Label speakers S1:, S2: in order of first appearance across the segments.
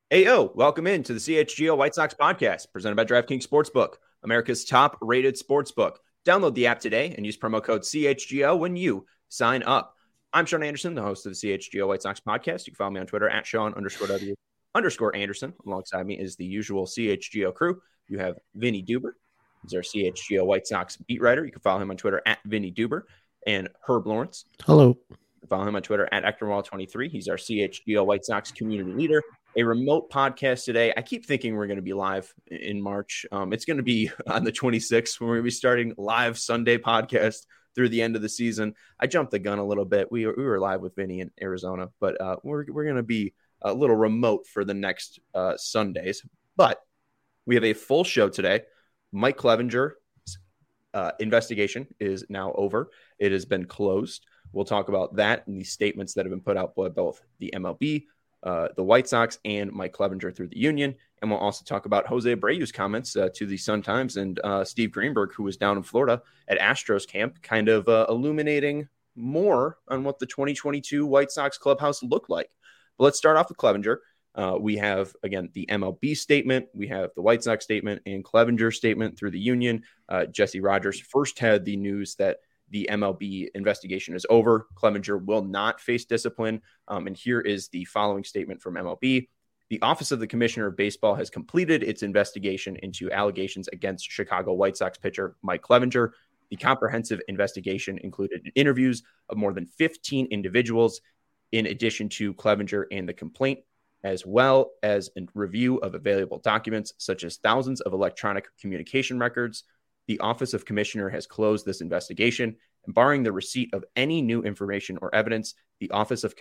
S1: Ayo, welcome in to the CHGO White Sox podcast presented by DraftKings Sportsbook, America's top-rated sportsbook. Download the app today and use promo code CHGO when you sign up. I'm Sean Anderson, the host of the CHGO White Sox podcast. You can follow me on Twitter at Sean_W_Anderson. Alongside me is the usual CHGO crew. You have Vinny Duber. He's our CHGO White Sox beat writer. You can follow him on Twitter at Vinny Duber. And Herb Lawrence.
S2: Hello.
S1: Follow him on Twitter at Ectorwall23. He's our CHGO White Sox community leader. A remote podcast today. I keep thinking we're going to be live in March. It's going to be on the 26th when we're going to be starting live Sunday podcast through the end of the season. I jumped the gun a little bit. We were live with Vinny in Arizona, but we're going to be a little remote for the next Sundays. But we have a full show today. Mike Clevenger's investigation is now over. It has been closed. We'll talk about that and the statements that have been put out by both the MLB, the White Sox, and Mike Clevenger through the union. And we'll also talk about Jose Abreu's comments to the Sun-Times and Steve Greenberg, who was down in Florida at Astros camp, kind of illuminating more on what the 2022 White Sox clubhouse looked like. But let's start off with Clevenger. We have, again, the MLB statement. We have the White Sox statement and Clevenger's statement through the union. Jesse Rogers first had the news that the MLB investigation is over. Clevenger will not face discipline. And here is the following statement from MLB. The Office of the Commissioner of Baseball has completed its investigation into allegations against Chicago White Sox pitcher Mike Clevenger. The comprehensive investigation included interviews of more than 15 individuals, in addition to Clevenger and the complaint, as well as a review of available documents, such as thousands of electronic communication records. The Office of Commissioner has closed this investigation, and barring the receipt of any new information or evidence, the Office of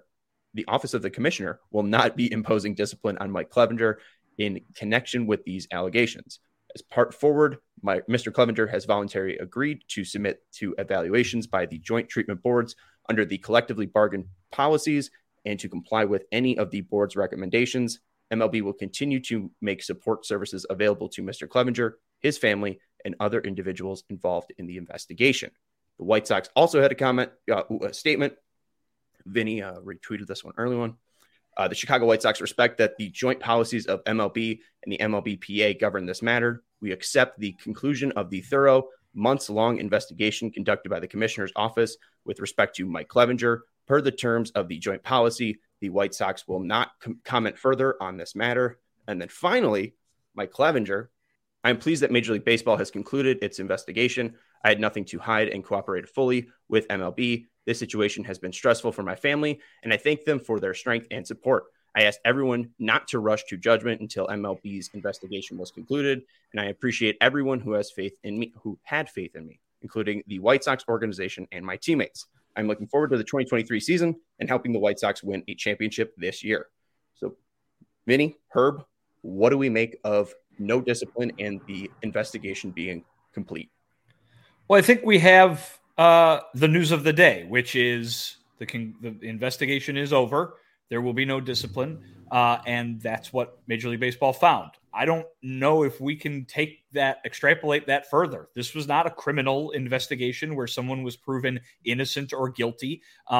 S1: the Commissioner will not be imposing discipline on Mike Clevenger in connection with these allegations. As part forward, Mr. Clevenger has voluntarily agreed to submit to evaluations by the joint treatment boards under the collectively bargained policies and to comply with any of the board's recommendations. MLB will continue to make support services available to Mr. Clevenger, his family, and other individuals involved in the investigation. The White Sox also had a statement. Vinny retweeted this one, early one. The Chicago White Sox respect that the joint policies of MLB and the MLBPA govern this matter. We accept the conclusion of the thorough, months-long investigation conducted by the Commissioner's office with respect to Mike Clevenger. Per the terms of the joint policy, the White Sox will not comment further on this matter. And then finally, Mike Clevenger. I'm pleased that Major League Baseball has concluded its investigation. I had nothing to hide and cooperated fully with MLB. This situation has been stressful for my family, and I thank them for their strength and support. I asked everyone not to rush to judgment until MLB's investigation was concluded, and I appreciate everyone who had faith in me, including the White Sox organization and my teammates. I'm looking forward to the 2023 season and helping the White Sox win a championship this year. So, Vinny, Herb, what do we make of no discipline and the investigation being complete?
S3: Well, I think we have the news of the day, which is the investigation is over. There will be no discipline, and that's what Major League Baseball found. I don't know if we can extrapolate that further. This was not a criminal investigation where someone was proven innocent or guilty,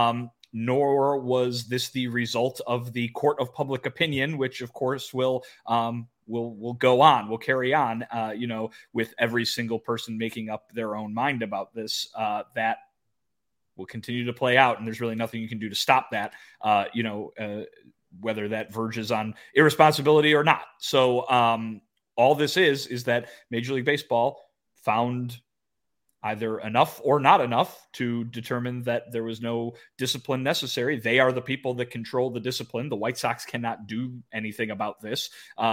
S3: nor was this the result of the court of public opinion, which, of course, will go on, will carry on, with every single person making up their own mind about this. That will continue to play out, and there's really nothing you can do to stop that, whether that verges on irresponsibility or not. So all this is that Major League Baseball found either enough or not enough to determine that there was no discipline necessary. They are the people that control the discipline. The White Sox cannot do anything about this.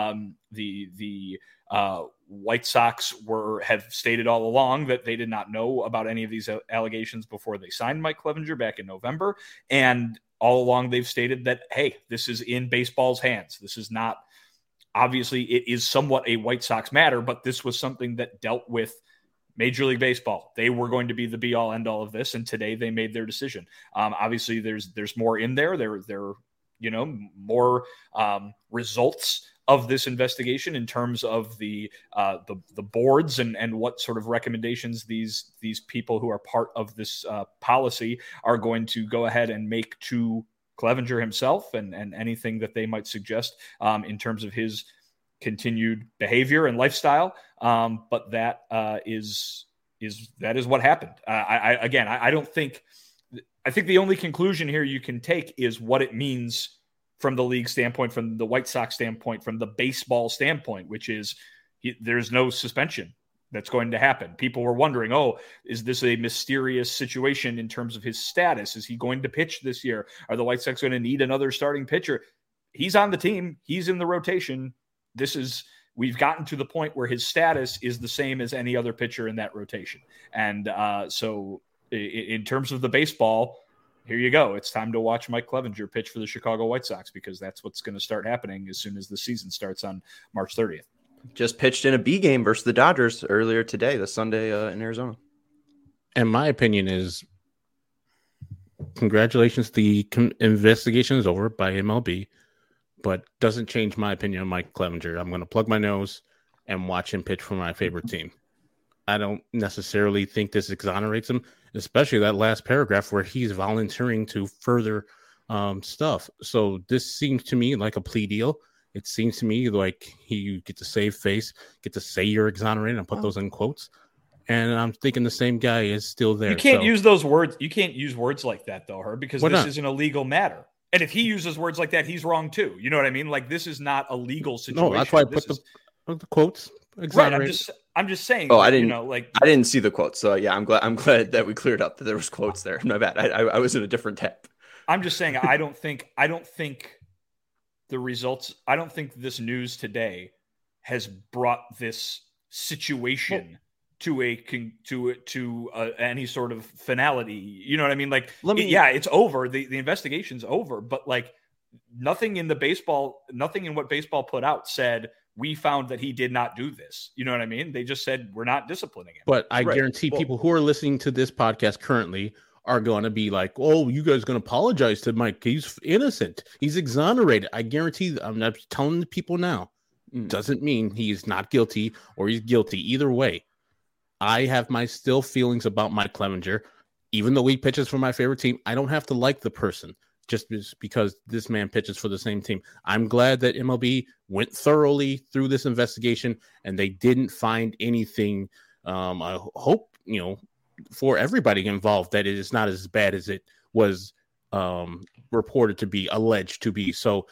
S3: The White Sox have stated all along that they did not know about any of these allegations before they signed Mike Clevenger back in November. And all along they've stated that, hey, this is in baseball's hands. This is not, obviously it is somewhat a White Sox matter, but this was something that dealt with Major League Baseball. They were going to be the be all end all of this. And today they made their decision. Obviously there's more in there. There more results of this investigation in terms of the boards and what sort of recommendations these people who are part of this policy are going to go ahead and make to Clevenger himself and anything that they might suggest in terms of his continued behavior and lifestyle. But that is what happened. I think the only conclusion here you can take is what it means from the league standpoint, from the White Sox standpoint, from the baseball standpoint, which is there's no suspension that's going to happen. People were wondering, is this a mysterious situation in terms of his status? Is he going to pitch this year? Are the White Sox going to need another starting pitcher? He's on the team. He's in the rotation. We've gotten to the point where his status is the same as any other pitcher in that rotation. And so in terms of the baseball, here you go. It's time to watch Mike Clevenger pitch for the Chicago White Sox, because that's what's going to start happening as soon as the season starts on March 30th.
S1: Just pitched in a B game versus the Dodgers earlier today, the Sunday in Arizona.
S2: And my opinion is, congratulations. The investigation is over by MLB, but doesn't change my opinion on Mike Clevenger. I'm going to plug my nose and watch him pitch for my favorite team. I don't necessarily think this exonerates him, especially that last paragraph where he's volunteering to further stuff. So this seems to me like a plea deal. It seems to me like you get to save face, get to say you're exonerated and put those in quotes. And I'm thinking the same guy is still there.
S3: You can't use those words. You can't use words like that, though, Herb, because this is an illegal matter. And if he uses words like that, he's wrong, too. You know what I mean? Like, this is not a legal situation.
S2: No, that's why I put the quotes. Exonerated.
S3: Right, I'm just saying.
S1: Oh, I didn't.
S3: I
S1: didn't see the quotes. So yeah, I'm glad that we cleared up that there was quotes there. My bad. I was in a different tab.
S3: I'm just saying. I don't think the results. I don't think this news today has brought this situation to any sort of finality. You know what I mean? Like, it's over. The investigation's over. But like, nothing in what baseball put out said we found that he did not do this. You know what I mean? They just said we're not disciplining him.
S2: But I guarantee people who are listening to this podcast currently are going to be like, "Oh, you guys going to apologize to Mike? He's innocent. He's exonerated." I guarantee. I'm not telling the people now. Doesn't mean he's not guilty or he's guilty. Either way, I have my still feelings about Mike Clevenger. Even though he pitches for my favorite team, I don't have to like the person just because this man pitches for the same team. I'm glad that MLB went thoroughly through this investigation and they didn't find anything. I hope, for everybody involved, that it is not as bad as it was reported to be, alleged to be. So,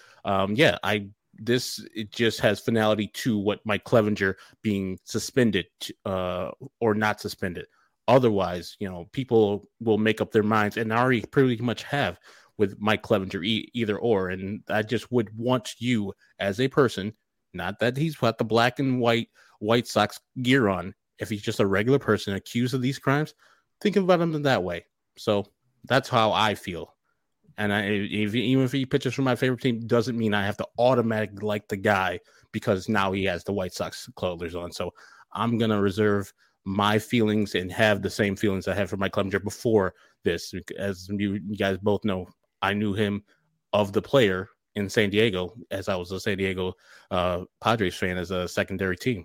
S2: it just has finality to what Mike Clevenger being suspended or not suspended. Otherwise, people will make up their minds and already pretty much have with Mike Clevenger, either or. And I just would want you as a person, not that he's got the black and white White Sox gear on, if he's just a regular person accused of these crimes, think about him in that way. So that's how I feel. And even if he pitches for my favorite team, doesn't mean I have to automatically like the guy because now he has the White Sox clothes on. So I'm going to reserve my feelings and have the same feelings I had for Mike Clevenger before this. As you guys both know, I knew him of the player in San Diego as I was a San Diego Padres fan as a secondary team.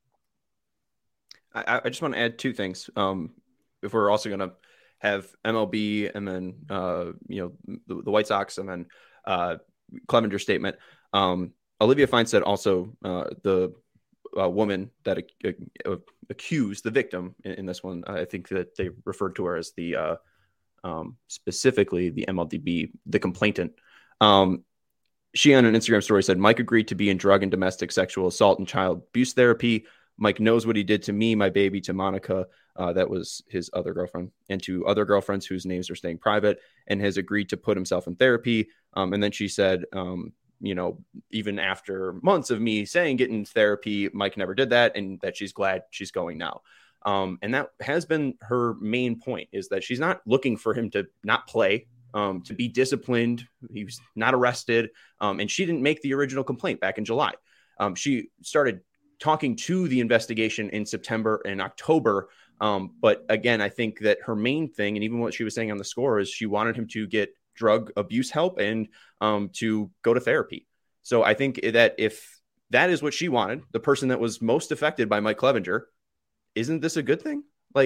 S1: I just want to add two things. If we're also going to have MLB and then, the White Sox and then Clevenger statement. Olivia Feinstead also, the woman that accused the victim in this one, I think that they referred to her as the specifically the MLB, the complainant. She on an Instagram story said, Mike agreed to be in drug and domestic sexual assault and child abuse therapy. Mike knows what he did to me, my baby, to Monica. That was his other girlfriend, and to other girlfriends whose names are staying private, and has agreed to put himself in therapy. And then she said, even after months of me saying get in therapy, Mike never did that, and that she's glad she's going now. And that has been her main point, is that she's not looking for him to not play, to be disciplined. He was not arrested. And she didn't make the original complaint back in July. She started talking to the investigation in September and October. But again, I think that her main thing, and even what she was saying on the score, is she wanted him to get drug abuse help and to go to therapy. So I think that if that is what she wanted, the person that was most affected by Mike Clevenger, isn't this a good thing? Like,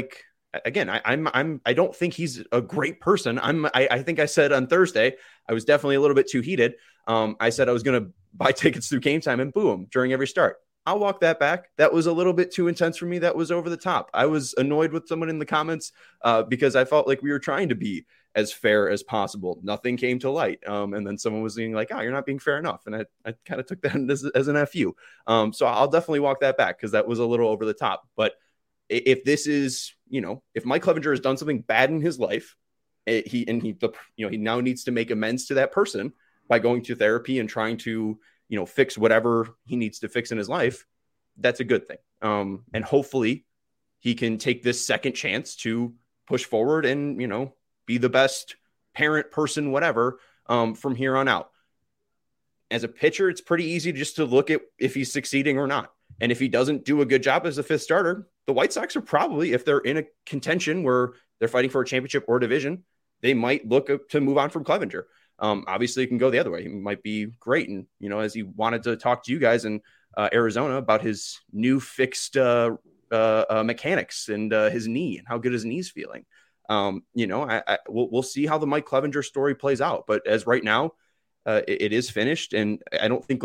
S1: again, I don't think he's a great person. I think I said on Thursday, I was definitely a little bit too heated. I said I was going to buy tickets through Game Time and boo him during every start. I'll walk that back. That was a little bit too intense for me. That was over the top. I was annoyed with someone in the comments because I felt like we were trying to be as fair as possible. Nothing came to light. And then someone was being like, oh, you're not being fair enough. And I kind of took that as an FU. So I'll definitely walk that back because that was a little over the top. But if this is, if Mike Clevenger has done something bad in his life, he now needs to make amends to that person by going to therapy and trying to, fix whatever he needs to fix in his life. That's a good thing. And hopefully he can take this second chance to push forward and, be the best parent, person, whatever, from here on out. As a pitcher, it's pretty easy just to look at if he's succeeding or not. And if he doesn't do a good job as a fifth starter, the White Sox are probably, if they're in a contention where they're fighting for a championship or division, they might look to move on from Clevenger. Obviously, it can go the other way. He might be great. And, as he wanted to talk to you guys in Arizona about his new fixed mechanics and his knee and how good his knee's feeling. We'll see how the Mike Clevenger story plays out. But as right now, it is finished. And I don't think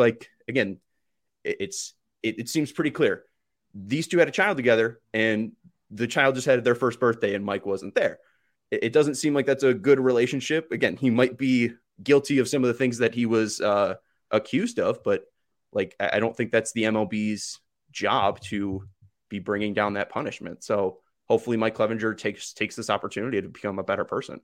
S1: it seems pretty clear. These two had a child together and the child just had their first birthday and Mike wasn't there. It doesn't seem like that's a good relationship. Again, he might be guilty of some of the things that he was accused of, but I don't think that's the MLB's job to be bringing down that punishment. So hopefully Mike Clevenger takes this opportunity to become a better person.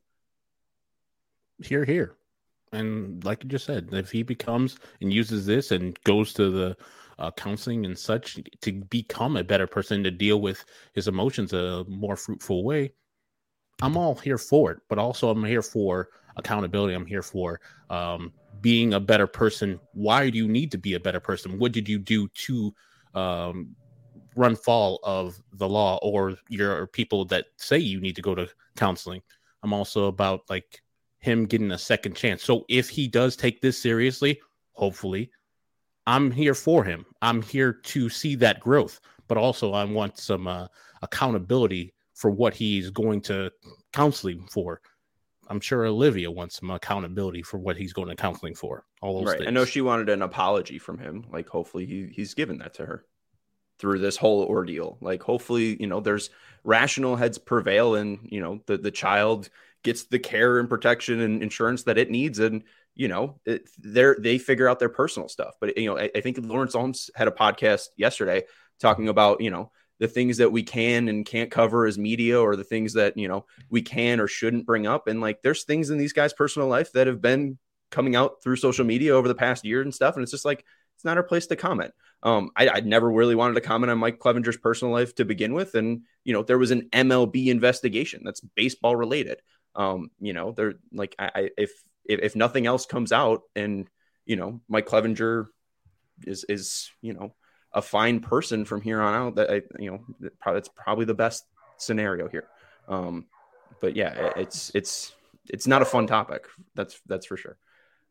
S2: Here. And like you just said, if he becomes and uses this and goes to the counseling and such to become a better person, to deal with his emotions a more fruitful way, I'm all here for it. But also I'm here for accountability. I'm here for being a better person. Why do you need to be a better person? What did you do to run foul of the law or your people that say you need to go to counseling? I'm also about him getting a second chance. So if he does take this seriously, hopefully, I'm here for him. I'm here to see that growth, but also I want some accountability for what he's going to counseling for. I'm sure Olivia wants some accountability for what he's going to counseling for. All those things.
S1: I know she wanted an apology from him. Hopefully he's given that to her through this whole ordeal. Hopefully, there's rational heads prevail and, the child gets the care and protection and insurance that it needs. And, they figure out their personal stuff. But, I think Lawrence Holmes had a podcast yesterday talking about, the things that we can and can't cover as media, or the things that, we can or shouldn't bring up. And there's things in these guys' personal life that have been coming out through social media over the past year and stuff. And it's just it's not our place to comment. I'd never really wanted to comment on Mike Clevenger's personal life to begin with. And, there was an MLB investigation that's baseball related. They're if nothing else comes out and, Mike Clevenger is a fine person from here on out, that that's probably the best scenario here. But yeah, it's not a fun topic. That's for sure.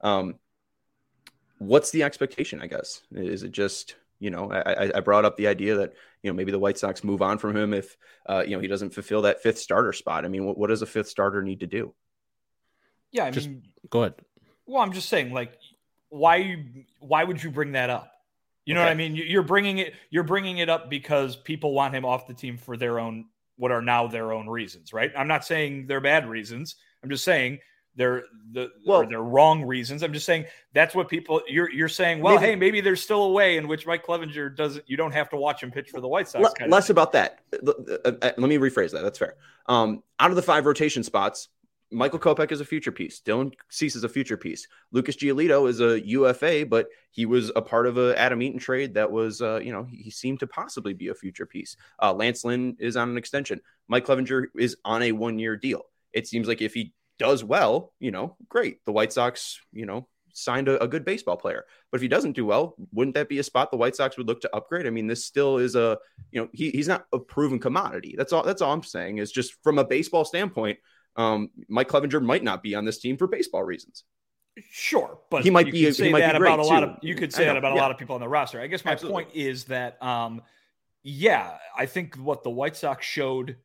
S1: What's the expectation, I guess? Is it just, I brought up the idea that, maybe the White Sox move on from him if, he doesn't fulfill that fifth starter spot. I mean, what does a fifth starter need to do?
S3: Yeah.
S2: Go ahead.
S3: Well, I'm just saying, why would you bring that up? You know what I mean? You're bringing it up because people want him off the team for what are now their own reasons, right? I'm not saying they're bad reasons. I'm just saying they're wrong reasons. I'm just saying that's what people you're saying. Well, maybe there's still a way in which Mike Clevenger you don't have to watch him pitch for the White Sox.
S1: Less about that. Let me rephrase that. That's fair. Out of the 5 rotation spots, Michael Kopech is a future piece. Dylan Cease is a future piece. Lucas Giolito is a UFA, but he was a part of a Adam Eaton trade that was, he seemed to possibly be a future piece. Lance Lynn is on an extension. Mike Clevenger is on a 1-year deal. It seems like if he does well, great. The White Sox, signed a good baseball player. But if he doesn't do well, wouldn't that be a spot the White Sox would look to upgrade? I mean, this still is he's not a proven commodity. That's all I'm saying is just from a baseball standpoint. Mike Clevenger might not be on this team for baseball reasons.
S3: Sure, but
S1: he might be. You could say that about
S3: a lot of people on the roster. I guess my point is that, I think what the White Sox showed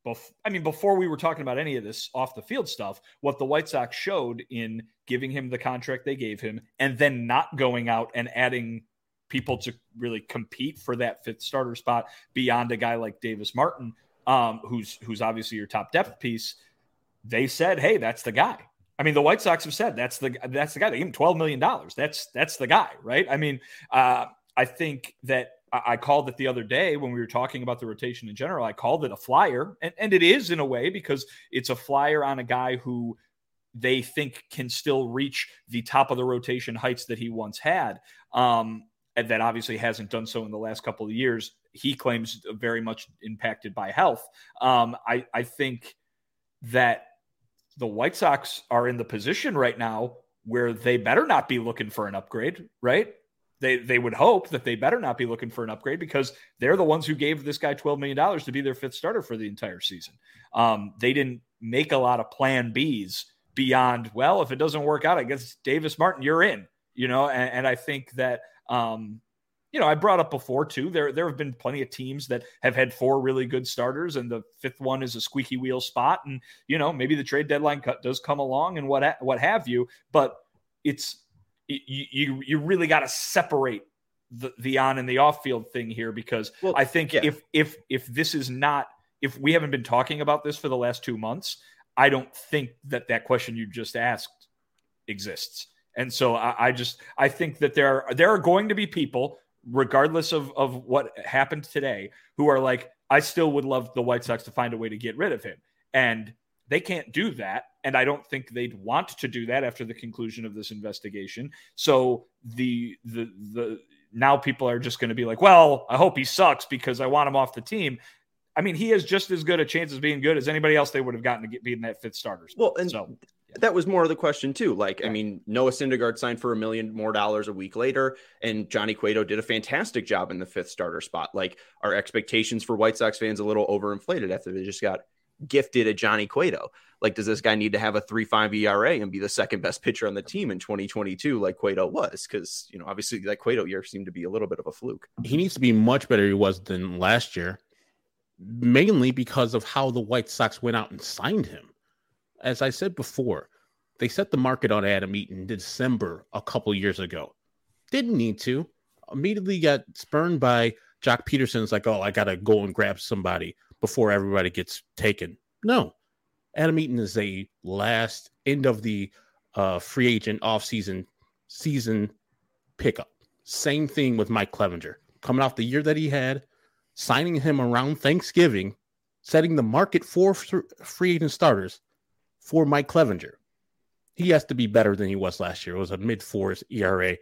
S3: before we were talking about any of this off the field stuff, what the White Sox showed in giving him the contract they gave him and then not going out and adding people to really compete for that fifth starter spot beyond a guy like Davis Martin, who's obviously your top depth piece. They said, hey, that's the guy. I mean, the White Sox have said that's the guy. They gave him $12 million. That's the guy, right? I mean, I think that I called it the other day when we were talking about the rotation in general. I called it a flyer, and it is in a way because it's a flyer on a guy who they think can still reach the top of the rotation heights that he once had. And that obviously hasn't done so in the last couple of years. He claims very much impacted by health. I think that the White Sox are in the position right now where they better not be looking for an upgrade, right? They would hope that they better not be looking for an upgrade because they're the ones who gave this guy $12 million to be their fifth starter for the entire season. They didn't make a lot of plan Bs beyond, well, if it doesn't work out, I guess Davis Martin, you're in, and I think that, I brought up before too, there have been plenty of teams that have had four really good starters and the fifth one is a squeaky wheel spot. And, maybe the trade deadline cut does come along and what have you, but you really got to separate the on and the off field thing here, because I think if this is not, if we haven't been talking about this for the last 2 months, I don't think that question you just asked exists. And so I think that there are going to be people, regardless of what happened today, who are like, I still would love the White Sox to find a way to get rid of him. And they can't do that. And I don't think they'd want to do that after the conclusion of this investigation. So the now people are just going to be like, well, I hope he sucks because I want him off the team. I mean, he has just as good a chance of being good as anybody else they would have gotten to be in that fifth starter spot.
S1: Well, and that was more of the question too. Like, I mean, Noah Syndergaard signed for $1 million more a week later, and Johnny Cueto did a fantastic job in the fifth starter spot. Like, our expectations for White Sox fans a little overinflated after they just got gifted a Johnny Cueto. Like, does this guy need to have a 3.5 ERA and be the second best pitcher on the team in 2022 like Cueto was? Because, obviously that Cueto year seemed to be a little bit of a fluke.
S2: He needs to be much better he was than last year, mainly because of how the White Sox went out and signed him. As I said before, they set the market on Adam Eaton in December a couple years ago. Didn't need to. Immediately got spurned by Jock Peterson's like, oh, I got to go and grab somebody before everybody gets taken. No. Adam Eaton is a last end of the free agent offseason season pickup. Same thing with Mike Clevinger. Coming off the year that he had, signing him around Thanksgiving, setting the market for free agent starters for Mike Clevinger. He has to be better than he was last year. It was a mid-4s ERA.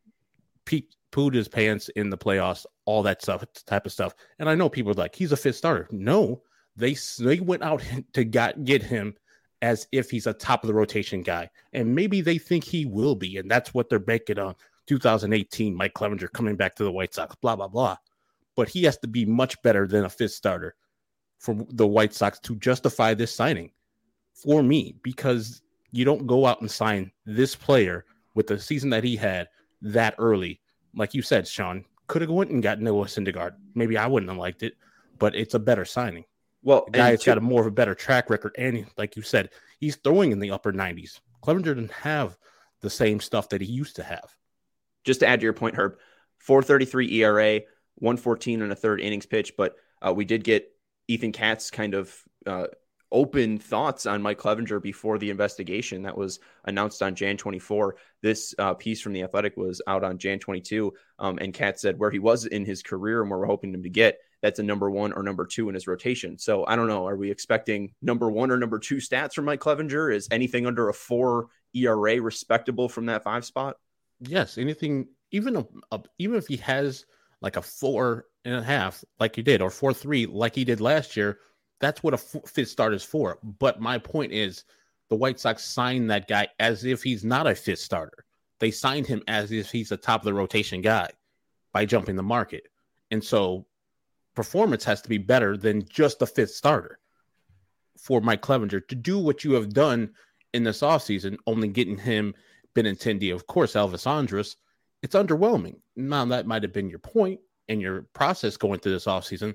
S2: Pooed his pants in the playoffs, all that stuff, type of stuff. And I know people are like, he's a fifth starter. No, they went out to get him as if he's a top of the rotation guy. And maybe they think he will be. And that's what they're banking on. 2018, Mike Clevinger coming back to the White Sox, blah, blah, blah. But he has to be much better than a fifth starter for the White Sox to justify this signing for me, because you don't go out and sign this player with the season that he had that early. Like you said, Sean, could have went and got Noah Syndergaard. Maybe I wouldn't have liked it, but it's a better signing. Well, the guy's got a more of a better track record, and like you said, he's throwing in the upper 90s. Clevinger didn't have the same stuff that he used to have.
S1: Just to add to your point, Herb, 4.33 ERA, 114 and a third innings pitch, but we did get Ethan Katz kind of open thoughts on Mike Clevinger before the investigation that was announced on Jan 24. This piece from The Athletic was out on Jan 22, and Katz said where he was in his career and where we're hoping him to get, that's a number 1 or number 2 in his rotation. So I don't know. Are we expecting number 1 or number 2 stats from Mike Clevinger? Is anything under a 4 ERA respectable from that 5 spot?
S2: Yes, anything, even if he has like a 4.5 like he did, or 4.3 like he did last year, that's what a fifth starter is for. But my point is, the White Sox signed that guy as if he's not a fifth starter. They signed him as if he's a top of the rotation guy by jumping the market. And so performance has to be better than just a fifth starter for Mike Clevinger to do what you have done in this offseason, only getting him Benintendi, of course, Elvis Andrus. It's underwhelming. Now, that might have been your point and your process going through this offseason,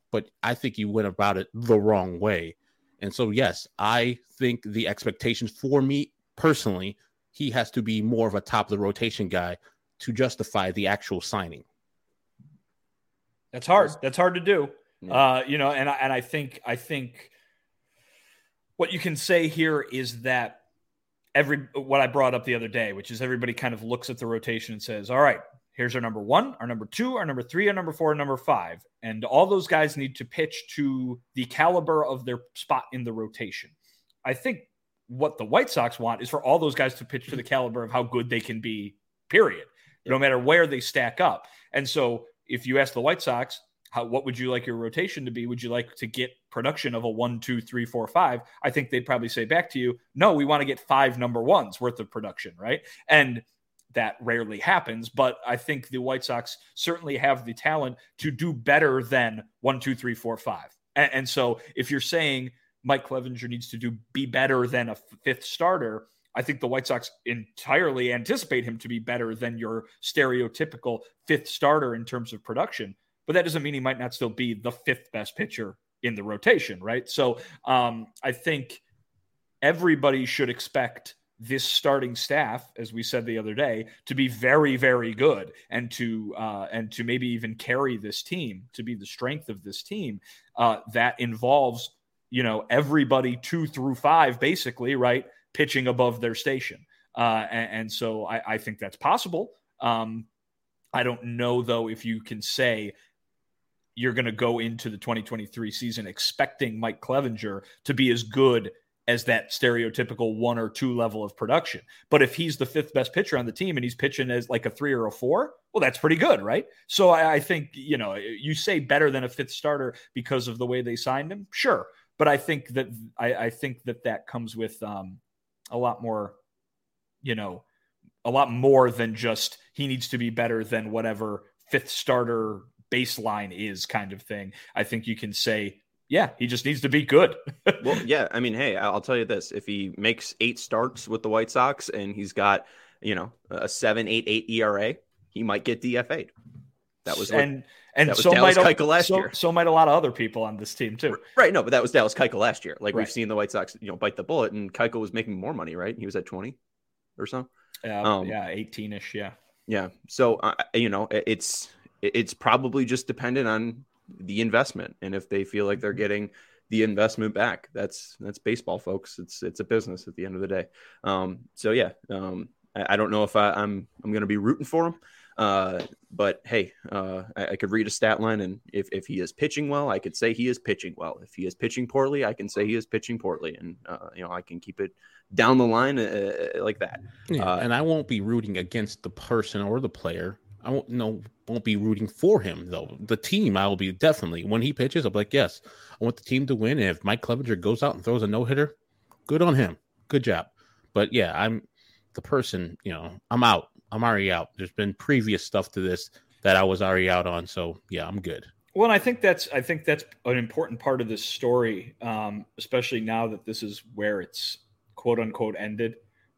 S2: but I think he went about it the wrong way. And so, yes, I think the expectations for me personally, he has to be more of a top of the rotation guy to justify the actual signing.
S3: That's hard. That's hard to do. Yeah. And I think what you can say here is that what I brought up the other day, which is everybody kind of looks at the rotation and says, all right, here's our number 1, our number 2, our number 3, our number 4, and number 5. And all those guys need to pitch to the caliber of their spot in the rotation. I think what the White Sox want is for all those guys to pitch to the caliber of how good they can be, period, no matter where they stack up. And so if you ask the White Sox, what would you like your rotation to be? Would you like to get production of a 1, 2, 3, 4, 5? I think they'd probably say back to you, no, we want to get 5 number 1s worth of production, right? And that rarely happens, but I think the White Sox certainly have the talent to do better than 1, 2, 3, 4, 5. And so if you're saying Mike Clevinger needs to be better than a 5th starter, I think the White Sox entirely anticipate him to be better than your stereotypical 5th starter in terms of production. But that doesn't mean he might not still be the 5th best pitcher in the rotation, right? So I think everybody should expect this starting staff, as we said the other day, to be very, very good and to maybe even carry this team, to be the strength of this team. That involves, everybody 2 through 5, basically, right, pitching above their station. And so I think that's possible. I don't know, though, if you can say you're going to go into the 2023 season expecting Mike Clevinger to be as good as that stereotypical 1 or 2 level of production. But if he's the 5th best pitcher on the team and he's pitching as like a 3 or a 4, well, that's pretty good, right? So I think, you say better than a 5th starter because of the way they signed him. Sure. But I think that that comes with a lot more than just he needs to be better than whatever 5th starter baseline is kind of thing. I think you can say, yeah, he just needs to be good.
S1: Well, yeah. I mean, hey, I'll tell you this. If he makes 8 starts with the White Sox and he's got, a 7.88 ERA, he might get DFA'd. That was
S3: and
S1: so Dallas Keuchel last year.
S3: So might a lot of other people on this team too.
S1: Right. No, but that was Dallas Keuchel last year. Like, right. We've seen the White Sox, bite the bullet, and Keuchel was making more money, right? He was at 20 or so.
S3: 18-ish. Yeah.
S1: Yeah. So, it's probably just dependent on the investment. And if they feel like they're getting the investment back, that's baseball, folks. It's a business at the end of the day. I don't know if I'm going to be rooting for him. But hey, I could read a stat line, and if he is pitching well, I could say he is pitching well. If he is pitching poorly, I can say he is pitching poorly, and I can keep it down the line like that.
S2: Yeah, and I won't be rooting against the person or the player. I won't be rooting for him though. The team, I will be definitely, when he pitches, I'll be like, yes, I want the team to win. And if Mike Clevinger goes out and throws a no-hitter, good on him. Good job. But yeah, I'm the person, I'm out. I'm already out. There's been previous stuff to this that I was already out on. So yeah, I'm good.
S3: Well, and I think that's an important part of this story, especially now that this is where it's quote unquote ended.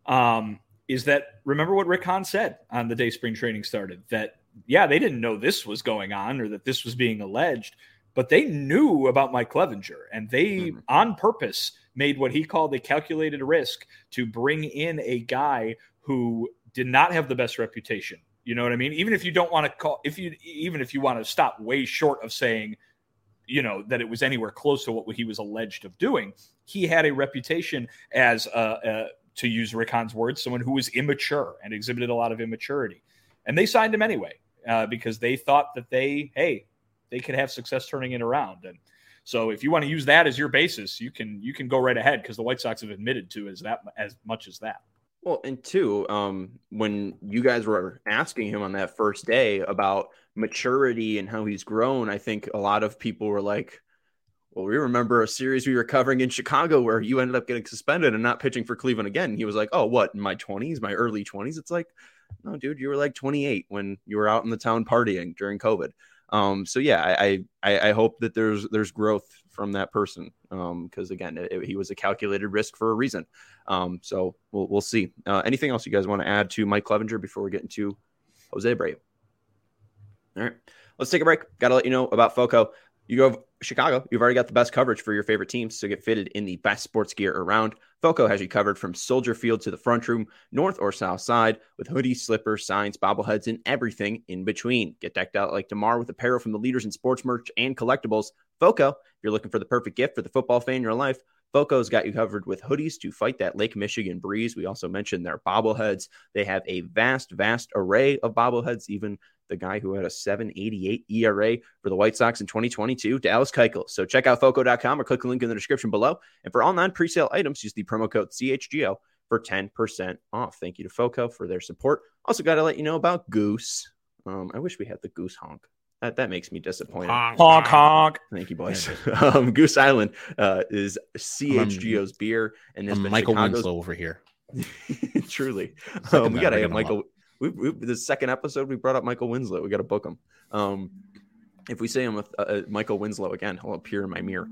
S3: Is that, remember what Rick Hahn said on the day spring training started, that, yeah, they didn't know this was going on or that this was being alleged, but they knew about Mike Clevinger, and they on purpose made what he called a calculated risk to bring in a guy who did not have the best reputation. You know what I mean? Even if you don't want to even if you want to stop way short of saying, that it was anywhere close to what he was alleged of doing, he had a reputation as to use Rick Hahn's words, someone who was immature and exhibited a lot of immaturity. And they signed him anyway because they thought that they could have success turning it around. And so if you want to use that as your basis, you can go right ahead, because the White Sox have admitted to as much as that.
S1: Well, and two, when you guys were asking him on that first day about maturity and how he's grown, I think a lot of people were like, well, we remember a series we were covering in Chicago where you ended up getting suspended and not pitching for Cleveland again. And he was like, oh, what, in my 20s, my early 20s? It's like, no, dude, you were like 28 when you were out in the town partying during COVID. So yeah, I hope that there's growth from that person. Because again, he was a calculated risk for a reason. So we'll see. Anything else you guys want to add to Mike Clevinger before we get into Jose Abreu? All right, let's take a break. Got to let you know about FOCO. You go Chicago, you've already got the best coverage for your favorite teams, so get fitted in the best sports gear around. Foco has you covered from Soldier Field to the front room, north or south side, with hoodies, slippers, signs, bobbleheads, and everything in between. Get decked out like DeMar with apparel from the leaders in sports merch and collectibles. Foco, if you're looking for the perfect gift for the football fan in your life, Foco's got you covered with hoodies to fight that Lake Michigan breeze. We also mentioned their bobbleheads. They have a vast array of bobbleheads, even the guy who had a 7.88 ERA for the White Sox in 2022, Dallas Keuchel. So check out Foco.com or click the link in the description below. And for all non-presale items, use the promo code CHGO for 10% off. Thank you to Foco for their support. Also got to let you know about Goose. I wish we had the Goose honk. That makes me disappointed.
S3: Honk, honk.
S1: Thank you, boys. Goose Island is CHGO's beer. And has been
S2: Michael
S1: Chicago's...
S2: Winslow over here.
S1: Truly. We got to have Michael... the second episode we brought up Michael Winslow. We got to book him. If we say him with Michael Winslow again, he'll appear in my mirror.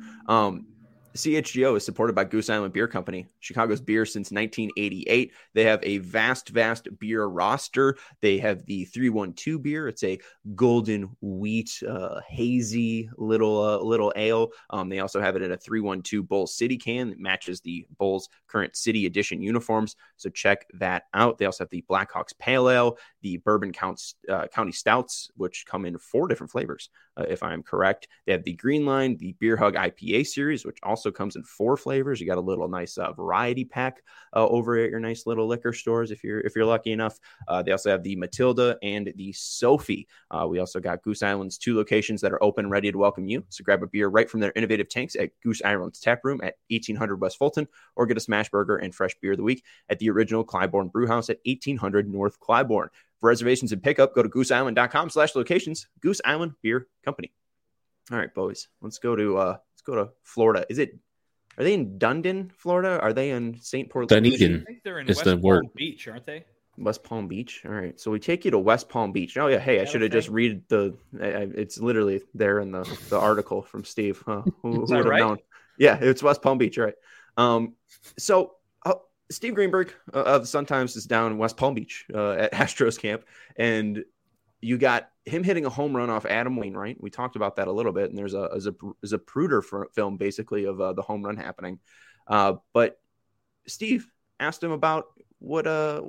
S1: CHGO is supported by Goose Island Beer Company, Chicago's beer since 1988. They have a vast beer roster. They have the 312 beer. It's a golden wheat, hazy little ale. They also have it in a 312 Bulls City can that matches the Bulls current City Edition uniforms. So check that out. They also have the Blackhawks Pale Ale, the Bourbon County Stouts, which come in 4 different flavors, if I'm correct. They have the Green Line, the Beer Hug IPA series, which also comes in 4 flavors. You got a little nice variety pack over at your nice little liquor stores if you're lucky enough. They also have the Matilda and the Sophie. We also got Goose Island's 2 locations that are open and ready to welcome you. So grab a beer right from their innovative tanks at Goose Island's tap room at 1800 West Fulton, or get a smash burger and fresh beer of the week at the original Clybourne Brewhouse at 1800 North Clybourne. For reservations and pickup, go to gooseisland.com/locations. Goose Island Beer Company. All right, boys, let's go to Florida. Are they in Dunedin, Florida? Are they in St. Port?
S2: Dunedin.
S3: I think they're in
S2: Is
S3: West
S2: the
S3: Palm
S2: word.
S3: Beach, aren't they?
S1: West Palm Beach. All right, so we take you to West Palm Beach. Oh yeah, hey, I should have just read the. It's literally there in the article from Steve. Who would have known? Yeah, it's West Palm Beach. All right. So Steve Greenberg of the Sun-Times is down in West Palm Beach at Astros camp, and you got him hitting a home run off Adam Wainwright. We talked about that a little bit, and there's a Zapruder film basically of the home run happening. But Steve asked him about what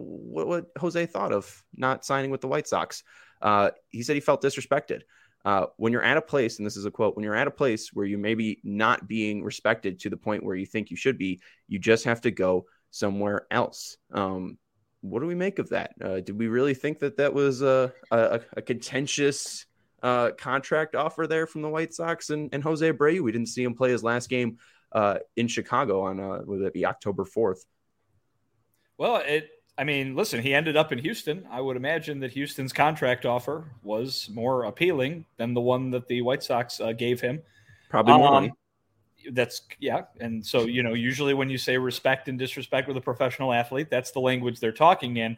S1: Jose thought of not signing with the White Sox. He said he felt disrespected. When you're at a place, and this is a quote, when you're at a place where you maybe not being respected to the point where you think you should be, you just have to go somewhere else. What do we make of that? Did we really think that was a contentious contract offer there from the White Sox and Jose Abreu? We didn't see him play his last game in Chicago on would it be October 4th?
S3: Well, listen, he ended up in Houston. I would imagine that Houston's contract offer was more appealing than the one that the White Sox gave him.
S1: Probably more money.
S3: And so, usually when you say respect and disrespect with a professional athlete, that's the language they're talking in.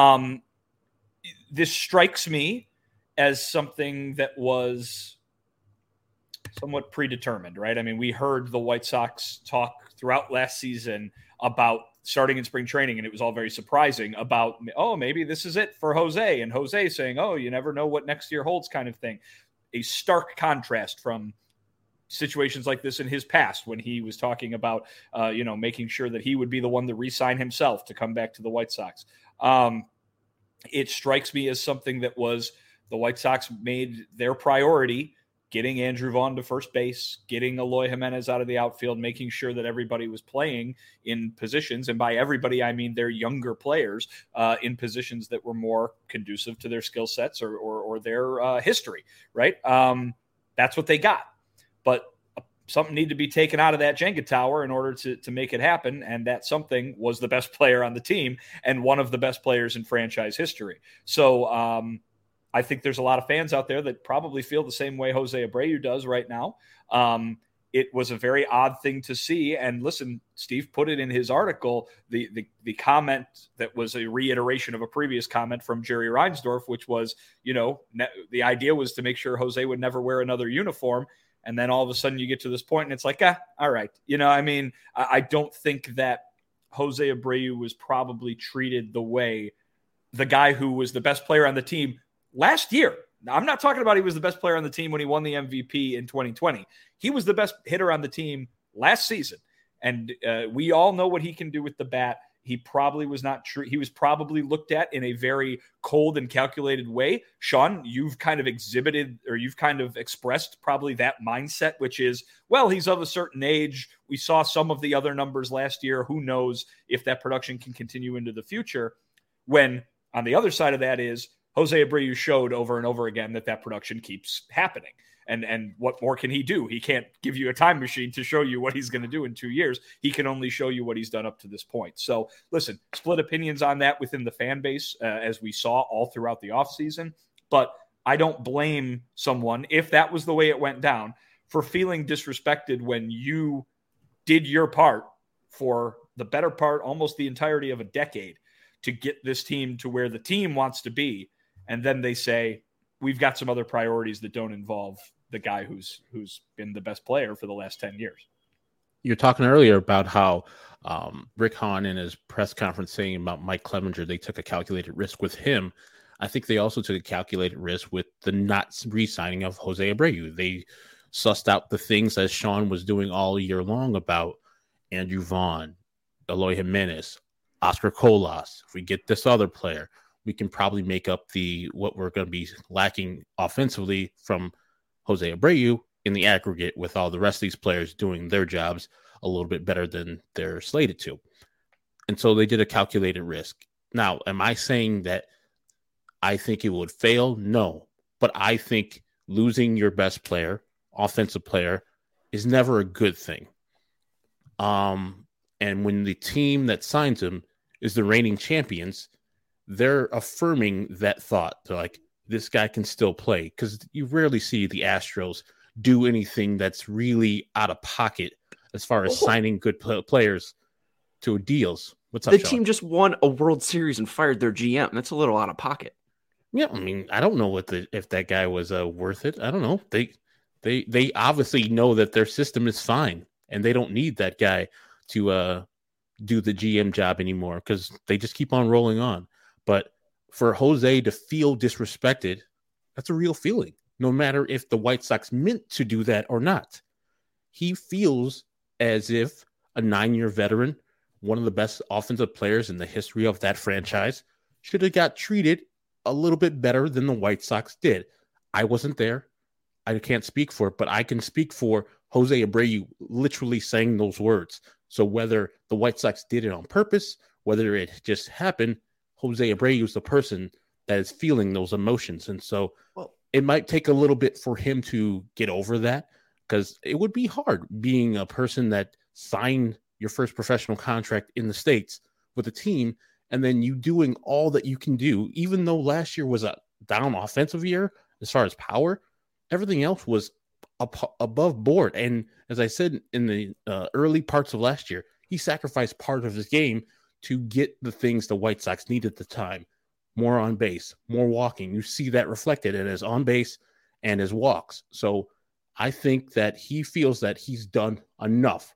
S3: This strikes me as something that was somewhat predetermined, right? I mean, we heard the White Sox talk throughout last season about starting in spring training, and it was all very surprising about, maybe this is it for Jose, and Jose saying, you never know what next year holds kind of thing. A stark contrast from situations like this in his past when he was talking about, making sure that he would be the one to re-sign himself to come back to the White Sox. It strikes me as something that was the White Sox made their priority, getting Andrew Vaughn to first base, getting Eloy Jimenez out of the outfield, making sure that everybody was playing in positions. And by everybody, I mean their younger players in positions that were more conducive to their skill sets or their history, right? That's what they got. But something needed to be taken out of that Jenga tower in order to make it happen. And that something was the best player on the team and one of the best players in franchise history. So I think there's a lot of fans out there that probably feel the same way Jose Abreu does right now. It was a very odd thing to see. And listen, Steve put it in his article, the comment that was a reiteration of a previous comment from Jerry Reinsdorf, which was, the idea was to make sure Jose would never wear another uniform. And then all of a sudden you get to this point and it's like, all right. I don't think that Jose Abreu was probably treated the way the guy who was the best player on the team last year Now, I'm not talking about he was the best player on the team when he won the MVP in 2020. He was the best hitter on the team last season. And we all know what he can do with the bat. He probably was not true. He was probably looked at in a very cold and calculated way. Sean, you've kind of exhibited, or you've kind of expressed probably that mindset, which is, well, he's of a certain age. We saw some of the other numbers last year. Who knows if that production can continue into the future? When on the other side of that is Jose Abreu showed over and over again that production keeps happening. And what more can he do? He can't give you a time machine to show you what he's going to do in 2 years. He can only show you what he's done up to this point. So listen, split opinions on that within the fan base, as we saw all throughout the offseason. But I don't blame someone, if that was the way it went down, for feeling disrespected when you did your part for the better part, almost the entirety of a decade, to get this team to where the team wants to be. And then they say, we've got some other priorities that don't involve the guy who's been the best player for the last 10 years.
S2: You're talking earlier about how Rick Hahn in his press conference saying about Mike Clevenger, they took a calculated risk with him. I think they also took a calculated risk with the not re-signing of Jose Abreu. They sussed out the things that Sean was doing all year long about Andrew Vaughn, Eloy Jimenez, Oscar Colas. If we get this other player, we can probably make up what we're going to be lacking offensively from Jose Abreu in the aggregate, with all the rest of these players doing their jobs a little bit better than they're slated to. And so they did a calculated risk. Now, am I saying that I think it would fail? No. But I think losing your best player, offensive player, is never a good thing. And when the team that signs him is the reigning champions, they're affirming that thought. They're like, this guy can still play, because you rarely see the Astros do anything that's really out of pocket as far as signing good players to deals. What's up,
S1: The
S2: Sean?
S1: team just won a World Series and fired their GM. That's a little out of pocket.
S2: Yeah, I mean, I don't know if that guy was worth it. I don't know. They obviously know that their system is fine, and they don't need that guy to do the GM job anymore, because they just keep on rolling on. But for Jose to feel disrespected, that's a real feeling, no matter if the White Sox meant to do that or not. He feels as if a 9-year veteran, one of the best offensive players in the history of that franchise, should have got treated a little bit better than the White Sox did. I wasn't there. I can't speak for it, but I can speak for Jose Abreu literally saying those words. So whether the White Sox did it on purpose, whether it just happened, Jose Abreu is the person that is feeling those emotions. And so it might take a little bit for him to get over that, because it would be hard being a person that signed your first professional contract in the States with a team, and then you doing all that you can do, even though last year was a down offensive year as far as power, everything else was above board. And as I said in the early parts of last year, he sacrificed part of his game to get the things the White Sox needed at the time. More on base, more walking. You see that reflected in his on base and his walks. So I think that he feels that he's done enough,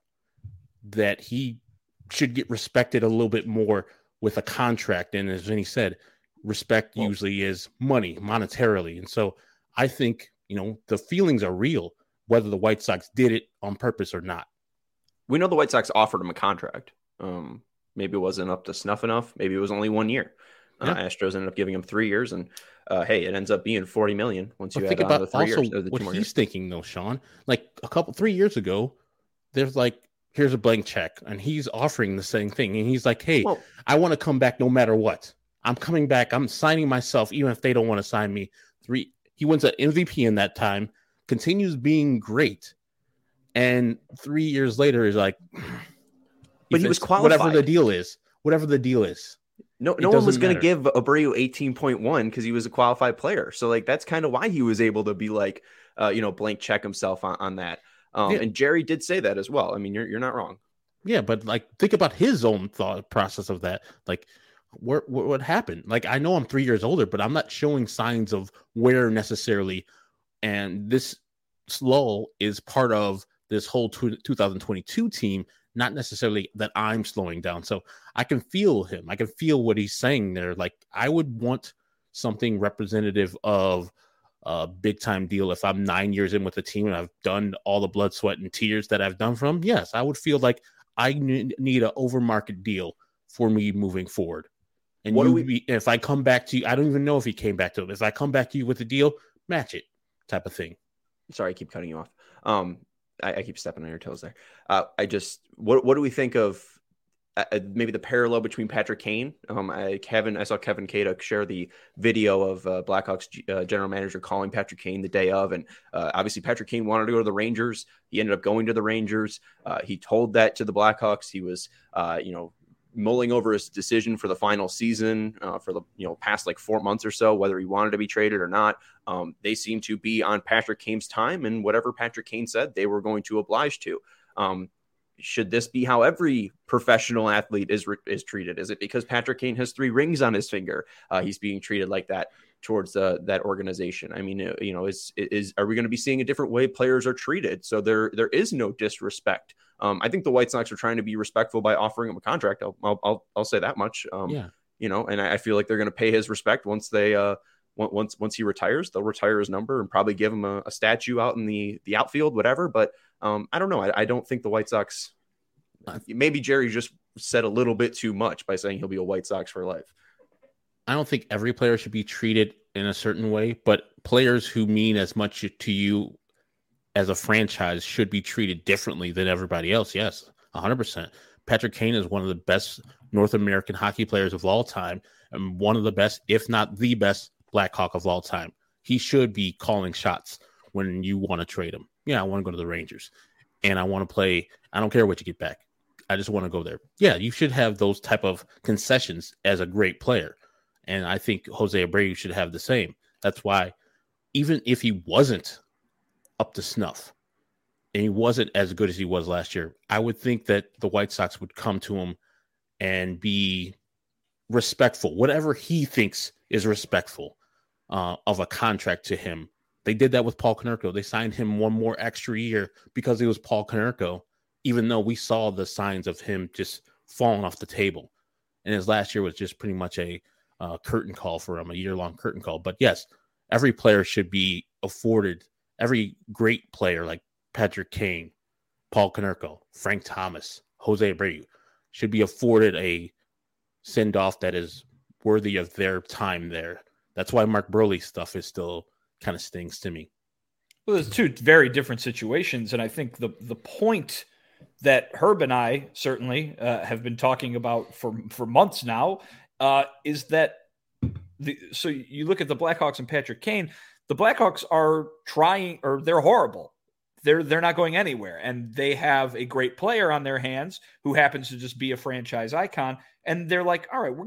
S2: that he should get respected a little bit more with a contract. And as Vinny said, respect usually is money, monetarily. And so I think, the feelings are real, whether the White Sox did it on purpose or not.
S1: We know the White Sox offered him a contract. Maybe it wasn't up to snuff enough. Maybe it was only 1 year. Astros ended up giving him 3 years, and hey, it ends up being $40 million once you add on the 3 years.
S2: What he's thinking, though, Sean, like 3 years ago, there's like, here's a blank check, and he's offering the same thing, and he's like, hey, I want to come back no matter what. I'm coming back. I'm signing myself, even if they don't want to sign me. He wins an MVP in that time, continues being great, and 3 years later is like,
S1: but he was qualified.
S2: Whatever the deal is. No
S1: one was going to give Abreu 18.1 because he was a qualified player. So like, that's kind of why he was able to be like, blank check himself on that. And Jerry did say that as well. I mean, you're not wrong.
S2: Yeah, but like, think about his own thought process of that. Like, what happened? Like, I know I'm 3 years older, but I'm not showing signs of wear necessarily. And this lull is part of this whole 2022 team, not necessarily that I'm slowing down. So I can feel him. I can feel what he's saying there. Like, I would want something representative of a big time deal. If I'm 9 years in with the team and I've done all the blood, sweat, and tears that I've done for them, yes, I would feel like I need an overmarket deal for me moving forward. And if I come back to you, I don't even know if he came back to him. If I come back to you with a deal, match it, type of thing.
S1: Sorry, I keep cutting you off. I keep stepping on your toes there. What do we think of maybe the parallel between Patrick Kane? I saw Kevin Kaduk share the video of Blackhawks general manager calling Patrick Kane the day of, and obviously Patrick Kane wanted to go to the Rangers. He ended up going to the Rangers. He told that to the Blackhawks. He was, mulling over his decision for the final season for the past like 4 months or so, whether he wanted to be traded or not. They seem to be on Patrick Kane's time, and whatever Patrick Kane said, they were going to oblige to. Should this be how every professional athlete is treated? Is it because Patrick Kane has 3 rings on his finger, he's being treated like that towards that organization? I mean, are we going to be seeing a different way players are treated? So there is no disrespect. I think the White Sox are trying to be respectful by offering him a contract. I'll say that much. And I feel like they're going to pay his respect once once he retires. They'll retire his number and probably give him a statue out in the outfield, whatever. But I don't know. I don't think the White Sox. Maybe Jerry just said a little bit too much by saying he'll be a White Sox for life.
S2: I don't think every player should be treated in a certain way, but players who mean as much to you as a franchise should be treated differently than everybody else. Yes, 100%. Patrick Kane is one of the best North American hockey players of all time, and one of the best, if not the best, Blackhawk of all time. He should be calling shots when you want to trade him. Yeah, I want to go to the Rangers, and I want to play. I don't care what you get back. I just want to go there. Yeah, you should have those type of concessions as a great player, and I think Jose Abreu should have the same. That's why, even if he wasn't up to snuff and he wasn't as good as he was last year, I would think that the White Sox would come to him and be respectful, whatever he thinks is respectful of a contract to him. They did that with Paul Konerko. They signed him 1 more extra year because it was Paul Konerko, even though we saw the signs of him just falling off the table. And his last year was just pretty much a curtain call for him, a year-long curtain call. But yes, every player should be afforded. Every great player like Patrick Kane, Paul Konerko, Frank Thomas, Jose Abreu should be afforded a send-off that is worthy of their time there. That's why Mark Burley stuff is still kind of stings to me.
S3: Well, there's 2 very different situations, and I think the point that Herb and I certainly have been talking about for months now is that so you look at the Blackhawks and Patrick Kane. The Blackhawks are trying, or they're horrible. They're not going anywhere, and they have a great player on their hands who happens to just be a franchise icon. And they're like, all right,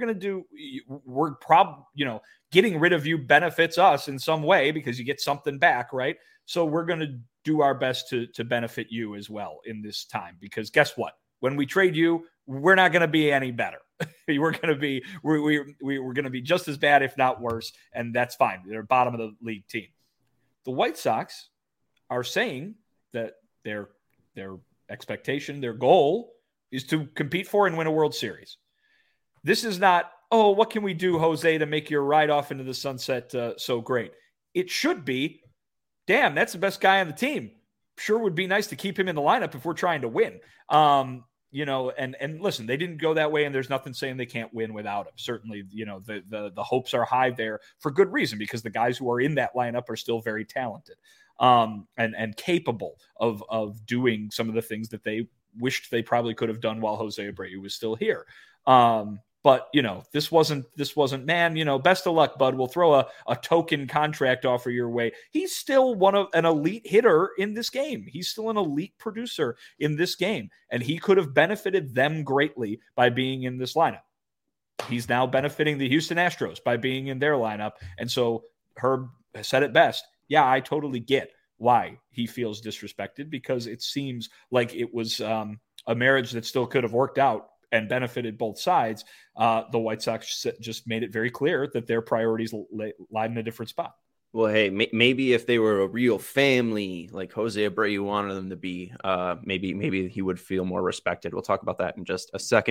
S3: getting rid of you benefits us in some way because you get something back, right? So we're going to do our best to benefit you as well in this time, because guess what? When we trade you, we're not going to be any better. we're going to be just as bad, if not worse, and that's fine. They're bottom of the league team. The White Sox are saying that their expectation, their goal is to compete for and win a World Series. This is not, oh, what can we do, Jose, to make your ride off into the sunset so great? It should be, damn, that's the best guy on the team. Sure would be nice to keep him in the lineup if we're trying to win. And listen, they didn't go that way, and there's nothing saying they can't win without him. Certainly, the hopes are high there for good reason, because the guys who are in that lineup are still very talented and capable of doing some of the things that they wished they probably could have done while Jose Abreu was still here. But this wasn't, man, best of luck, bud. We'll throw a token contract offer your way. He's still an elite hitter in this game. He's still an elite producer in this game. And he could have benefited them greatly by being in this lineup. He's now benefiting the Houston Astros by being in their lineup. And so Herb said it best. Yeah, I totally get why he feels disrespected, because it seems like it was a marriage that still could have worked out and benefited both sides. The White Sox just made it very clear that their priorities lie in a different spot.
S1: Well, hey, maybe if they were a real family like Jose Abreu wanted them to be, maybe he would feel more respected. We'll talk about that in just a second.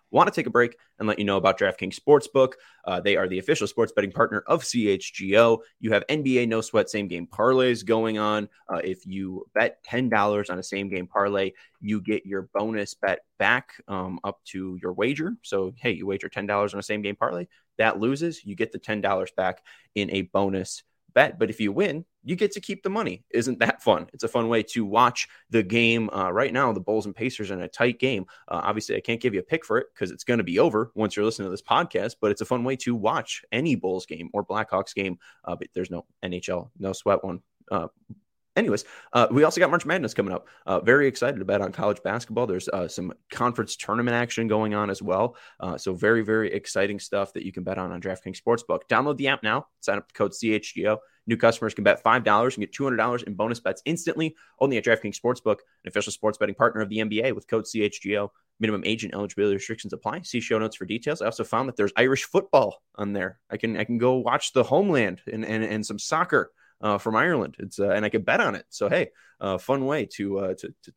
S1: Want to take a break and let you know about DraftKings Sportsbook. They are the official sports betting partner of CHGO. You have NBA no sweat same game parlays going on. If you bet $10 on a same game parlay, you get your bonus bet back up to your wager. So, hey, you wager $10 on a same game parlay, that loses, you get the $10 back in a bonus bet. But if you win, you get to keep the money. Isn't that fun? It's a fun way to watch the game. Right now, the Bulls and Pacers are in a tight game. Obviously, I can't give you a pick for it because it's going to be over once you're listening to this podcast, but it's a fun way to watch any Bulls game or Blackhawks game. But there's no NHL, no sweat one. Anyways, we also got March Madness coming up. Very excited to bet on college basketball. There's some conference tournament action going on as well. So very, very exciting stuff that you can bet on DraftKings Sportsbook. Download the app now. Sign up the code CHGO. New customers can bet $5 and get $200 in bonus bets instantly. Only at DraftKings Sportsbook, an official sports betting partner of the NBA with code CHGO. Minimum age and eligibility restrictions apply. See show notes for details. I also found that there's Irish football on there. I can go watch the homeland and some soccer from Ireland. It's and I can bet on it. So hey, fun way to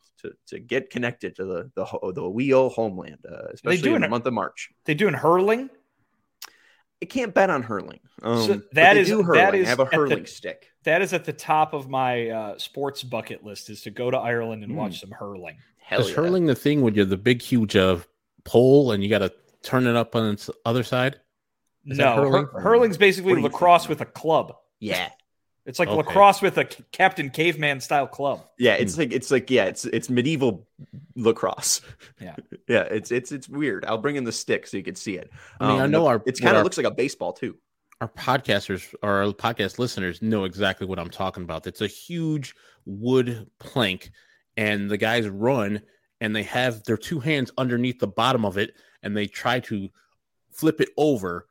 S1: get connected to the wee old homeland, especially in the month of March.
S3: They doing hurling?
S1: I can't bet on hurling.
S3: So that is
S1: I have a hurling stick.
S3: That is at the top of my sports bucket list, is to go to Ireland and watch some hurling.
S2: Is hurling the thing when you're the big, huge pole and you got to turn it up on its other side?
S3: No, hurling's basically lacrosse with a club.
S1: Yeah.
S3: It's like lacrosse with a Captain Caveman style club.
S1: Yeah, it's medieval lacrosse.
S3: Yeah,
S1: yeah, it's weird. I'll bring in the stick so you can see it.
S2: I mean, I know
S1: it kind of looks like a baseball too.
S2: Our podcasters or our podcast listeners know exactly what I'm talking about. It's a huge wood plank, and the guys run, and they have their two hands underneath the bottom of it, and they try to flip it over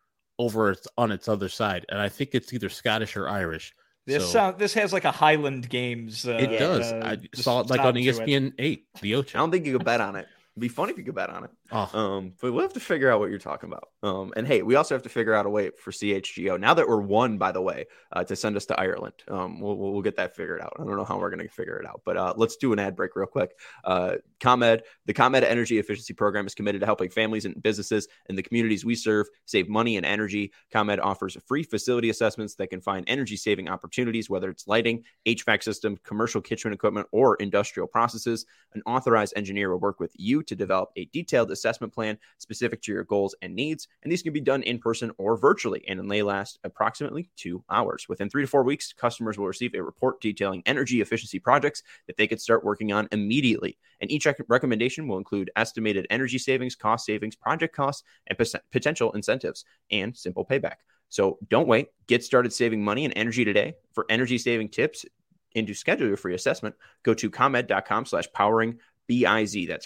S2: on its other side. And I think it's either Scottish or Irish.
S3: This has like a Highland Games.
S2: It does. I saw it like on ESPN 8, the Ocho.
S1: I don't think you could bet on it. It'd be funny if you could bet on it. But we'll have to figure out what you're talking about. And hey, we also have to figure out a way for CHGO, now that we're one, by the way, to send us to Ireland. We'll get that figured out. I don't know how we're going to figure it out, but let's do an ad break real quick. ComEd, the ComEd Energy Efficiency Program, is committed to helping families and businesses in the communities we serve save money and energy. ComEd offers free facility assessments that can find energy saving opportunities, whether it's lighting, HVAC system, commercial kitchen equipment, or industrial processes. An authorized engineer will work with you to develop a detailed assessment plan specific to your goals and needs. And these can be done in person or virtually, and they last approximately 2 hours. Within 3 to 4 weeks, customers will receive a report detailing energy efficiency projects that they could start working on immediately. And each recommendation will include estimated energy savings, cost savings, project costs, and potential incentives, and simple payback. So don't wait. Get started saving money and energy today. For energy saving tips and to schedule your free assessment, go to ComEd.com/powering-BIZ. That's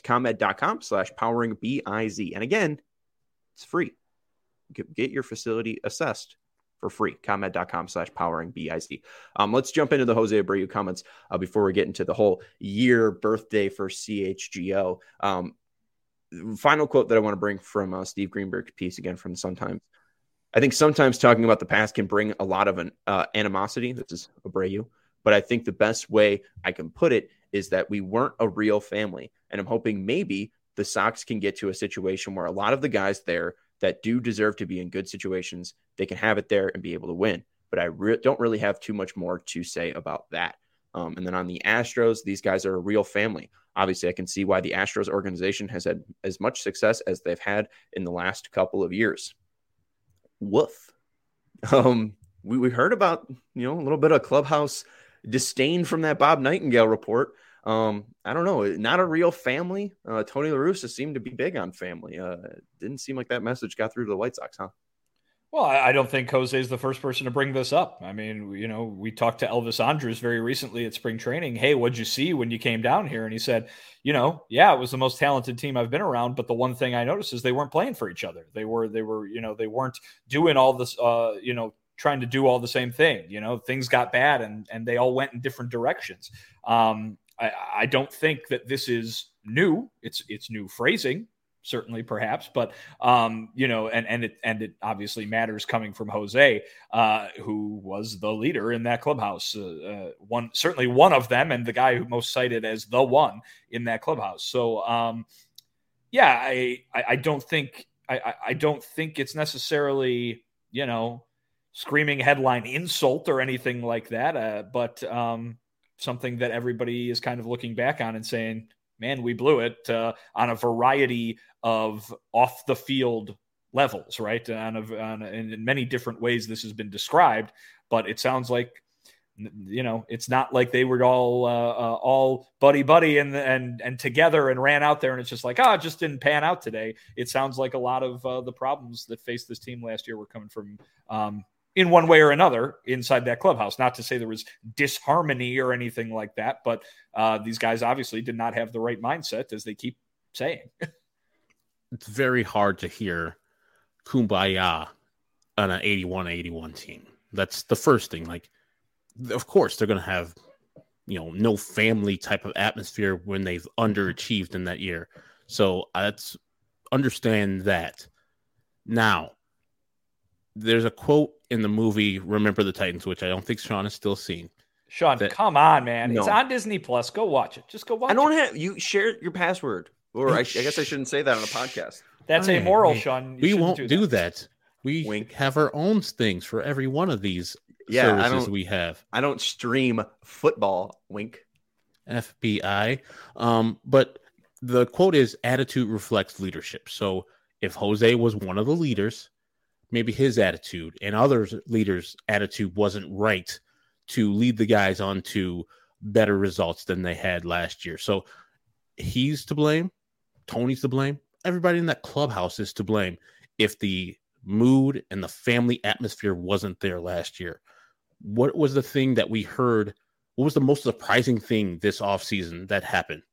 S1: ComEd.com/powering-BIZ. And again, it's free. Get your facility assessed for free. ComEd.com/powering-BIZ. Let's jump into the Jose Abreu comments before we get into the whole year birthday for CHGO. Final quote that I want to bring from Steve Greenberg's piece, again from the Sun-Times. I think sometimes talking about the past can bring a lot of animosity. This is Abreu. But I think the best way I can put it is that we weren't a real family. And I'm hoping maybe the Sox can get to a situation where a lot of the guys there that do deserve to be in good situations, they can have it there and be able to win. But I don't really have too much more to say about that. And then on the Astros, these guys are a real family. Obviously, I can see why the Astros organization has had as much success as they've had in the last couple of years. Woof. We heard about, a little bit of clubhouse disdain from that Bob Nightingale report. I don't know, not a real family. Tony La Russa seemed to be big on family. Didn't seem like that message got through to the White Sox, huh?
S3: Well, I don't think Jose is the first person to bring this up. I mean, we talked to Elvis Andrus very recently at spring training. Hey, what'd you see when you came down here? And he said, yeah, it was the most talented team I've been around. But the one thing I noticed is they weren't playing for each other. They were, they weren't doing all this, trying to do all the same thing. Things got bad and they all went in different directions. I don't think that this is new. It's new phrasing, certainly, perhaps, but and it obviously matters coming from Jose, who was the leader in that clubhouse. Certainly one of them, and the guy who most cited as the one in that clubhouse. So Yeah, I don't think I don't think it's necessarily, screaming headline insult or anything like that. But something that everybody is kind of looking back on and saying, man, we blew it on a variety of off the field levels, right? In many different ways, this has been described, but it sounds like, it's not like they were all buddy and together and ran out there and it's just like, it just didn't pan out today. It sounds like a lot of the problems that faced this team last year were coming from in one way or another inside that clubhouse. Not to say there was disharmony or anything like that, but these guys obviously did not have the right mindset, as they keep saying.
S2: It's very hard to hear kumbaya on an 81-81 team. That's the first thing. Like, of course, they're going to have, no family type of atmosphere when they've underachieved in that year. So let's understand that. Now, there's a quote in the movie Remember the Titans, which I don't think Sean has still seen.
S3: Sean, come on, man.
S1: No.
S3: It's on Disney Plus. Go watch it. Just go watch it.
S1: I don't have you share your password. Or I guess I shouldn't say that on a podcast.
S3: That's amoral, Sean.
S2: We won't do that. We
S1: Wink.
S2: have our own things for every one of these services we have.
S1: I don't stream football. Wink.
S2: FBI. But the quote is, attitude reflects leadership. So if Jose was one of the leaders, maybe his attitude and others leaders' attitude wasn't right to lead the guys on to better results than they had last year. So he's to blame. Tony's to blame. Everybody in that clubhouse is to blame if the mood and the family atmosphere wasn't there last year. What was the thing that we heard? What was the most surprising thing this offseason that happened?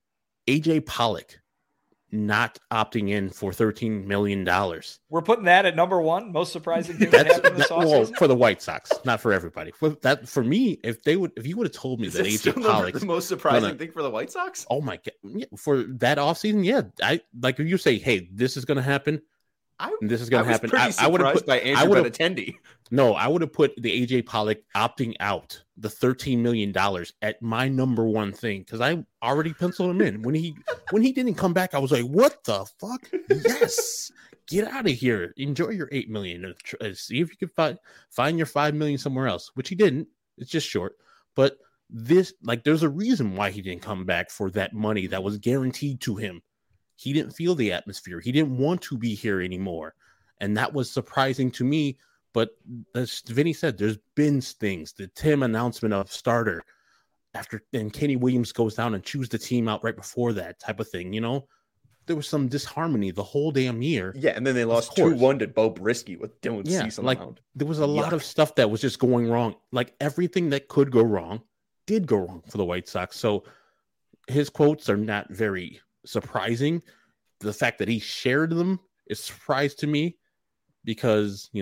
S2: AJ Pollock not opting in for $13 million.
S3: We're putting that at number one. Most surprising thing that happened this offseason? Well,
S2: for the White Sox, not for everybody. For me, if you would have told me that AJ Pollock,
S1: the most surprising thing for the White Sox?
S2: Oh my God. Yeah, for that offseason, yeah. I like if you say, hey, this is gonna happen. This is going to happen.
S1: I would have put by Andrew Benintendi.
S2: No, I would have put the AJ Pollock opting out, the $13 million at my number one thing, because I already penciled him in. When he didn't come back, I was like, "What the fuck? Yes, get out of here. Enjoy your $8 million. See if you can find your $5 million somewhere else." Which he didn't. It's just short. But there's a reason why he didn't come back for that money that was guaranteed to him. He didn't feel the atmosphere. He didn't want to be here anymore. And that was surprising to me. But as Vinny said, there's been things. The Tim announcement of starter and Kenny Williams goes down and chews the team out right before that type of thing. There was some disharmony the whole damn year.
S1: Yeah, and then they lost 2-1 to Bo Brisky with Dylan Cease on the mound.
S2: There was a lot of stuff that was just going wrong. Like everything that could go wrong did go wrong for the White Sox. So his quotes are not very surprising. The fact that he shared them is a surprise to me because,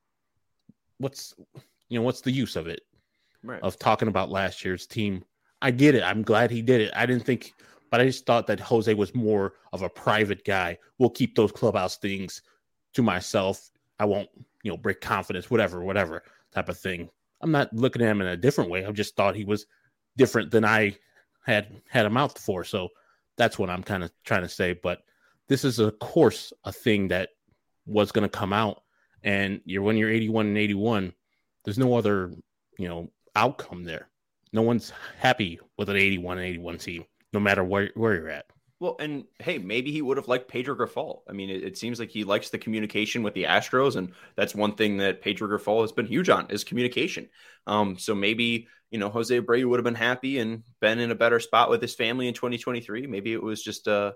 S2: what's the use of it? Right. Of talking about last year's team. I get it. I'm glad he did it. But I just thought that Jose was more of a private guy. We'll keep those clubhouse things to myself. I won't, break confidence, whatever type of thing. I'm not looking at him in a different way. I just thought he was different than I had him out for. So that's what I'm kind of trying to say. But this is, of course, a thing that was going to come out. And when you're 81-81, there's no other, outcome there. No one's happy with an 81-81 team, no matter where you're at.
S1: Well, and hey, maybe he would have liked Pedro Grifol. I mean, it seems like he likes the communication with the Astros, and that's one thing that Pedro Grifol has been huge on is communication. So maybe, Jose Abreu would have been happy and been in a better spot with his family in 2023. Maybe it was just a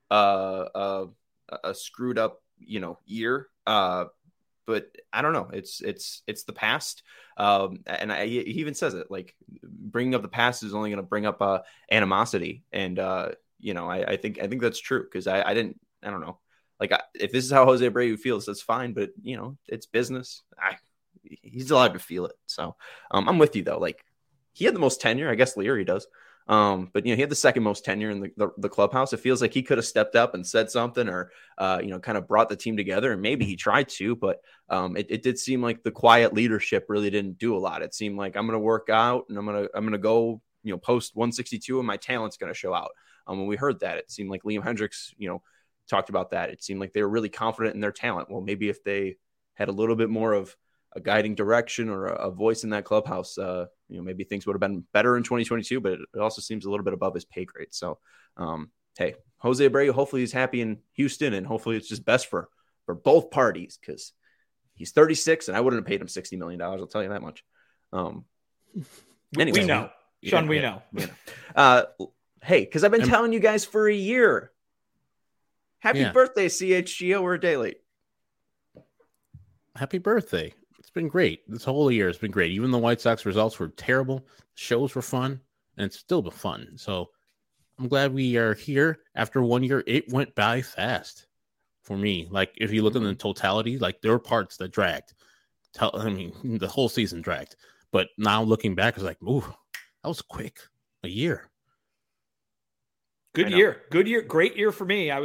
S1: screwed up, year. But I don't know. It's the past. And he even says it, like bringing up the past is only going to bring up animosity. And, I think that's true. Cause I don't know. Like if this is how Jose Abreu feels, that's fine. But it's business. He's allowed to feel it. So I'm with you though. Like he had the most tenure. I guess Leary does. But he had the second most tenure in the clubhouse. It feels like he could have stepped up and said something or, kind of brought the team together, and maybe he tried to, but it did seem like the quiet leadership really didn't do a lot. It seemed like I'm going to work out and I'm going to go, post 162 and my talent's going to show out. When we heard that, it seemed like Liam Hendricks, talked about that. It seemed like they were really confident in their talent. Well, maybe if they had a little bit more of a guiding direction or a voice in that clubhouse, maybe things would have been better in 2022, but it also seems a little bit above his pay grade. So, hey, Jose Abreu, hopefully he's happy in Houston, and hopefully it's just best for both parties, because he's 36 and I wouldn't have paid him $60 million. I'll tell you that much. Anyway,
S3: we know, Sean, we know.
S1: Hey, because I've been telling you guys for a year, happy birthday, CHGO. We're a day late.
S2: Happy birthday. It's been great. This whole year has been great. Even the White Sox results were terrible. Shows were fun, and it's still been fun. So I'm glad we are here after 1 year. It went by fast for me. Like, if you look at the totality, like, there were parts that dragged. The whole season dragged. But now looking back, it's like, ooh, that was quick. A year.
S3: Good year. Great year for me.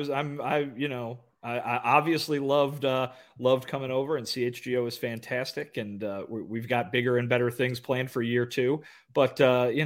S3: I obviously loved coming over, and CHGO is fantastic, and we've got bigger and better things planned for year two. But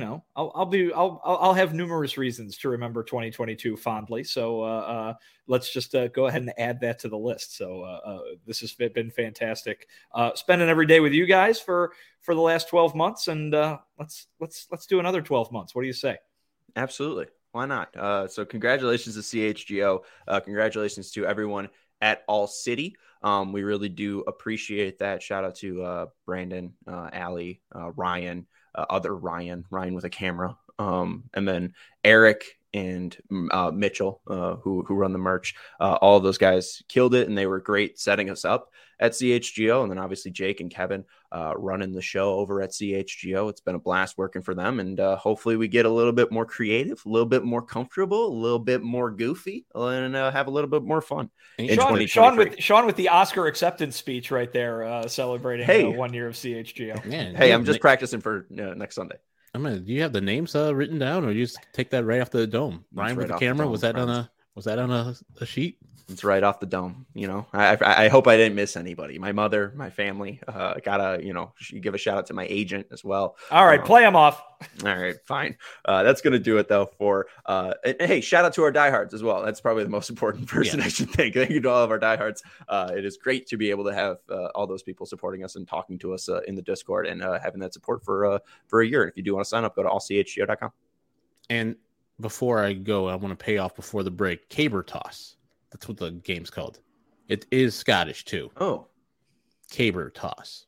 S3: I'll have numerous reasons to remember 2022 fondly. So let's just go ahead and add that to the list. So this has been fantastic. Spending every day with you guys for the last 12 months, and let's do another 12 months. What do you say?
S1: Absolutely. Why not? So congratulations to CHGO. Congratulations to everyone at All City. We really do appreciate that. Shout out to Brandon, Allie, Ryan, other Ryan with a camera, and then Eric and Mitchell, who run the merch. All of those guys killed it, and they were great setting us up at CHGO. And then obviously Jake and Kevin running the show over at CHGO. It's been a blast working for them, and hopefully we get a little bit more creative, a little bit more comfortable, a little bit more goofy, and have a little bit more fun.
S3: Sean with the Oscar acceptance speech right there, celebrating 1 year of CHGO.
S2: Man,
S1: hey, I'm just practicing for next Sunday.
S2: Do you have the names written down, or you just take that right off the dome? Ryan with the camera, was that on a sheet?
S1: It's right off the dome. I hope I didn't miss anybody. My mother, my family, gotta, give a shout out to my agent as well.
S3: All right. Play them off.
S1: All right, fine. That's going to do it though and hey, shout out to our diehards as well. That's probably the most important person I should thank. Thank you to all of our diehards. It is great to be able to have all those people supporting us and talking to us in the Discord, and having that support for a year. And if you do want to sign up, go to allchgo.com.
S2: And before I go, I want to pay off before the break. Caber Toss. That's what the game's called. It is Scottish too.
S1: Oh,
S2: Caber Toss.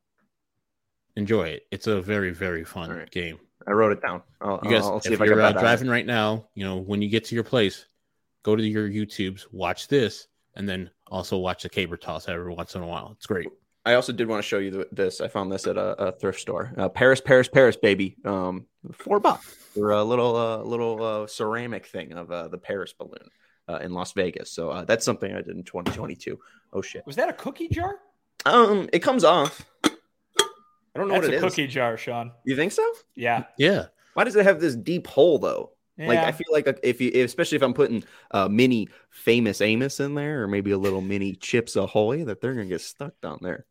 S2: Enjoy it. It's a very, very fun game.
S1: I wrote it down. I'll see if
S2: you're driving right now, when you get to your place, go to your YouTubes, watch this, and then also watch the Caber Toss every once in a while. It's great.
S1: I also did want to show you this. I found this at a thrift store. Paris, baby. $4 for a little ceramic thing of the Paris balloon in Las Vegas. So that's something I did in 2022. Oh shit!
S3: Was that a cookie jar?
S1: It comes off. I don't know what it is.
S3: That's a cookie jar, Sean.
S1: You think so?
S3: Yeah.
S2: Yeah.
S1: Why does it have this deep hole though?
S3: Yeah.
S1: Like, I feel like especially if I'm putting mini Famous Amos in there, or maybe a little mini Chips Ahoy, that they're gonna get stuck down there.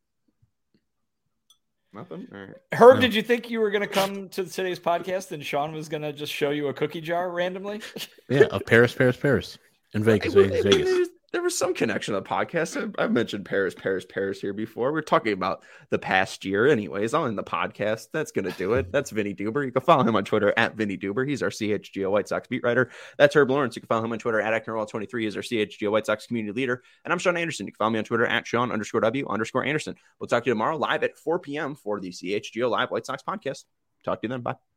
S1: Nothing. All right.
S3: Herb, did you think you were going to come to today's podcast and Sean was going to just show you a cookie jar randomly?
S2: Yeah, of Paris, in Vegas.
S1: There was some connection to the podcast. I've mentioned Paris here before. We're talking about the past year anyways on the podcast. That's going to do it. That's Vinny Duber. You can follow him on Twitter at Vinny Duber. He's our CHGO White Sox beat writer. That's Herb Lawrence. You can follow him on Twitter at ActonWall23. He's our CHGO White Sox community leader. And I'm Sean Anderson. You can follow me on Twitter at Sean_W_Anderson. We'll talk to you tomorrow live at 4 p.m. for the CHGO Live White Sox podcast. Talk to you then. Bye.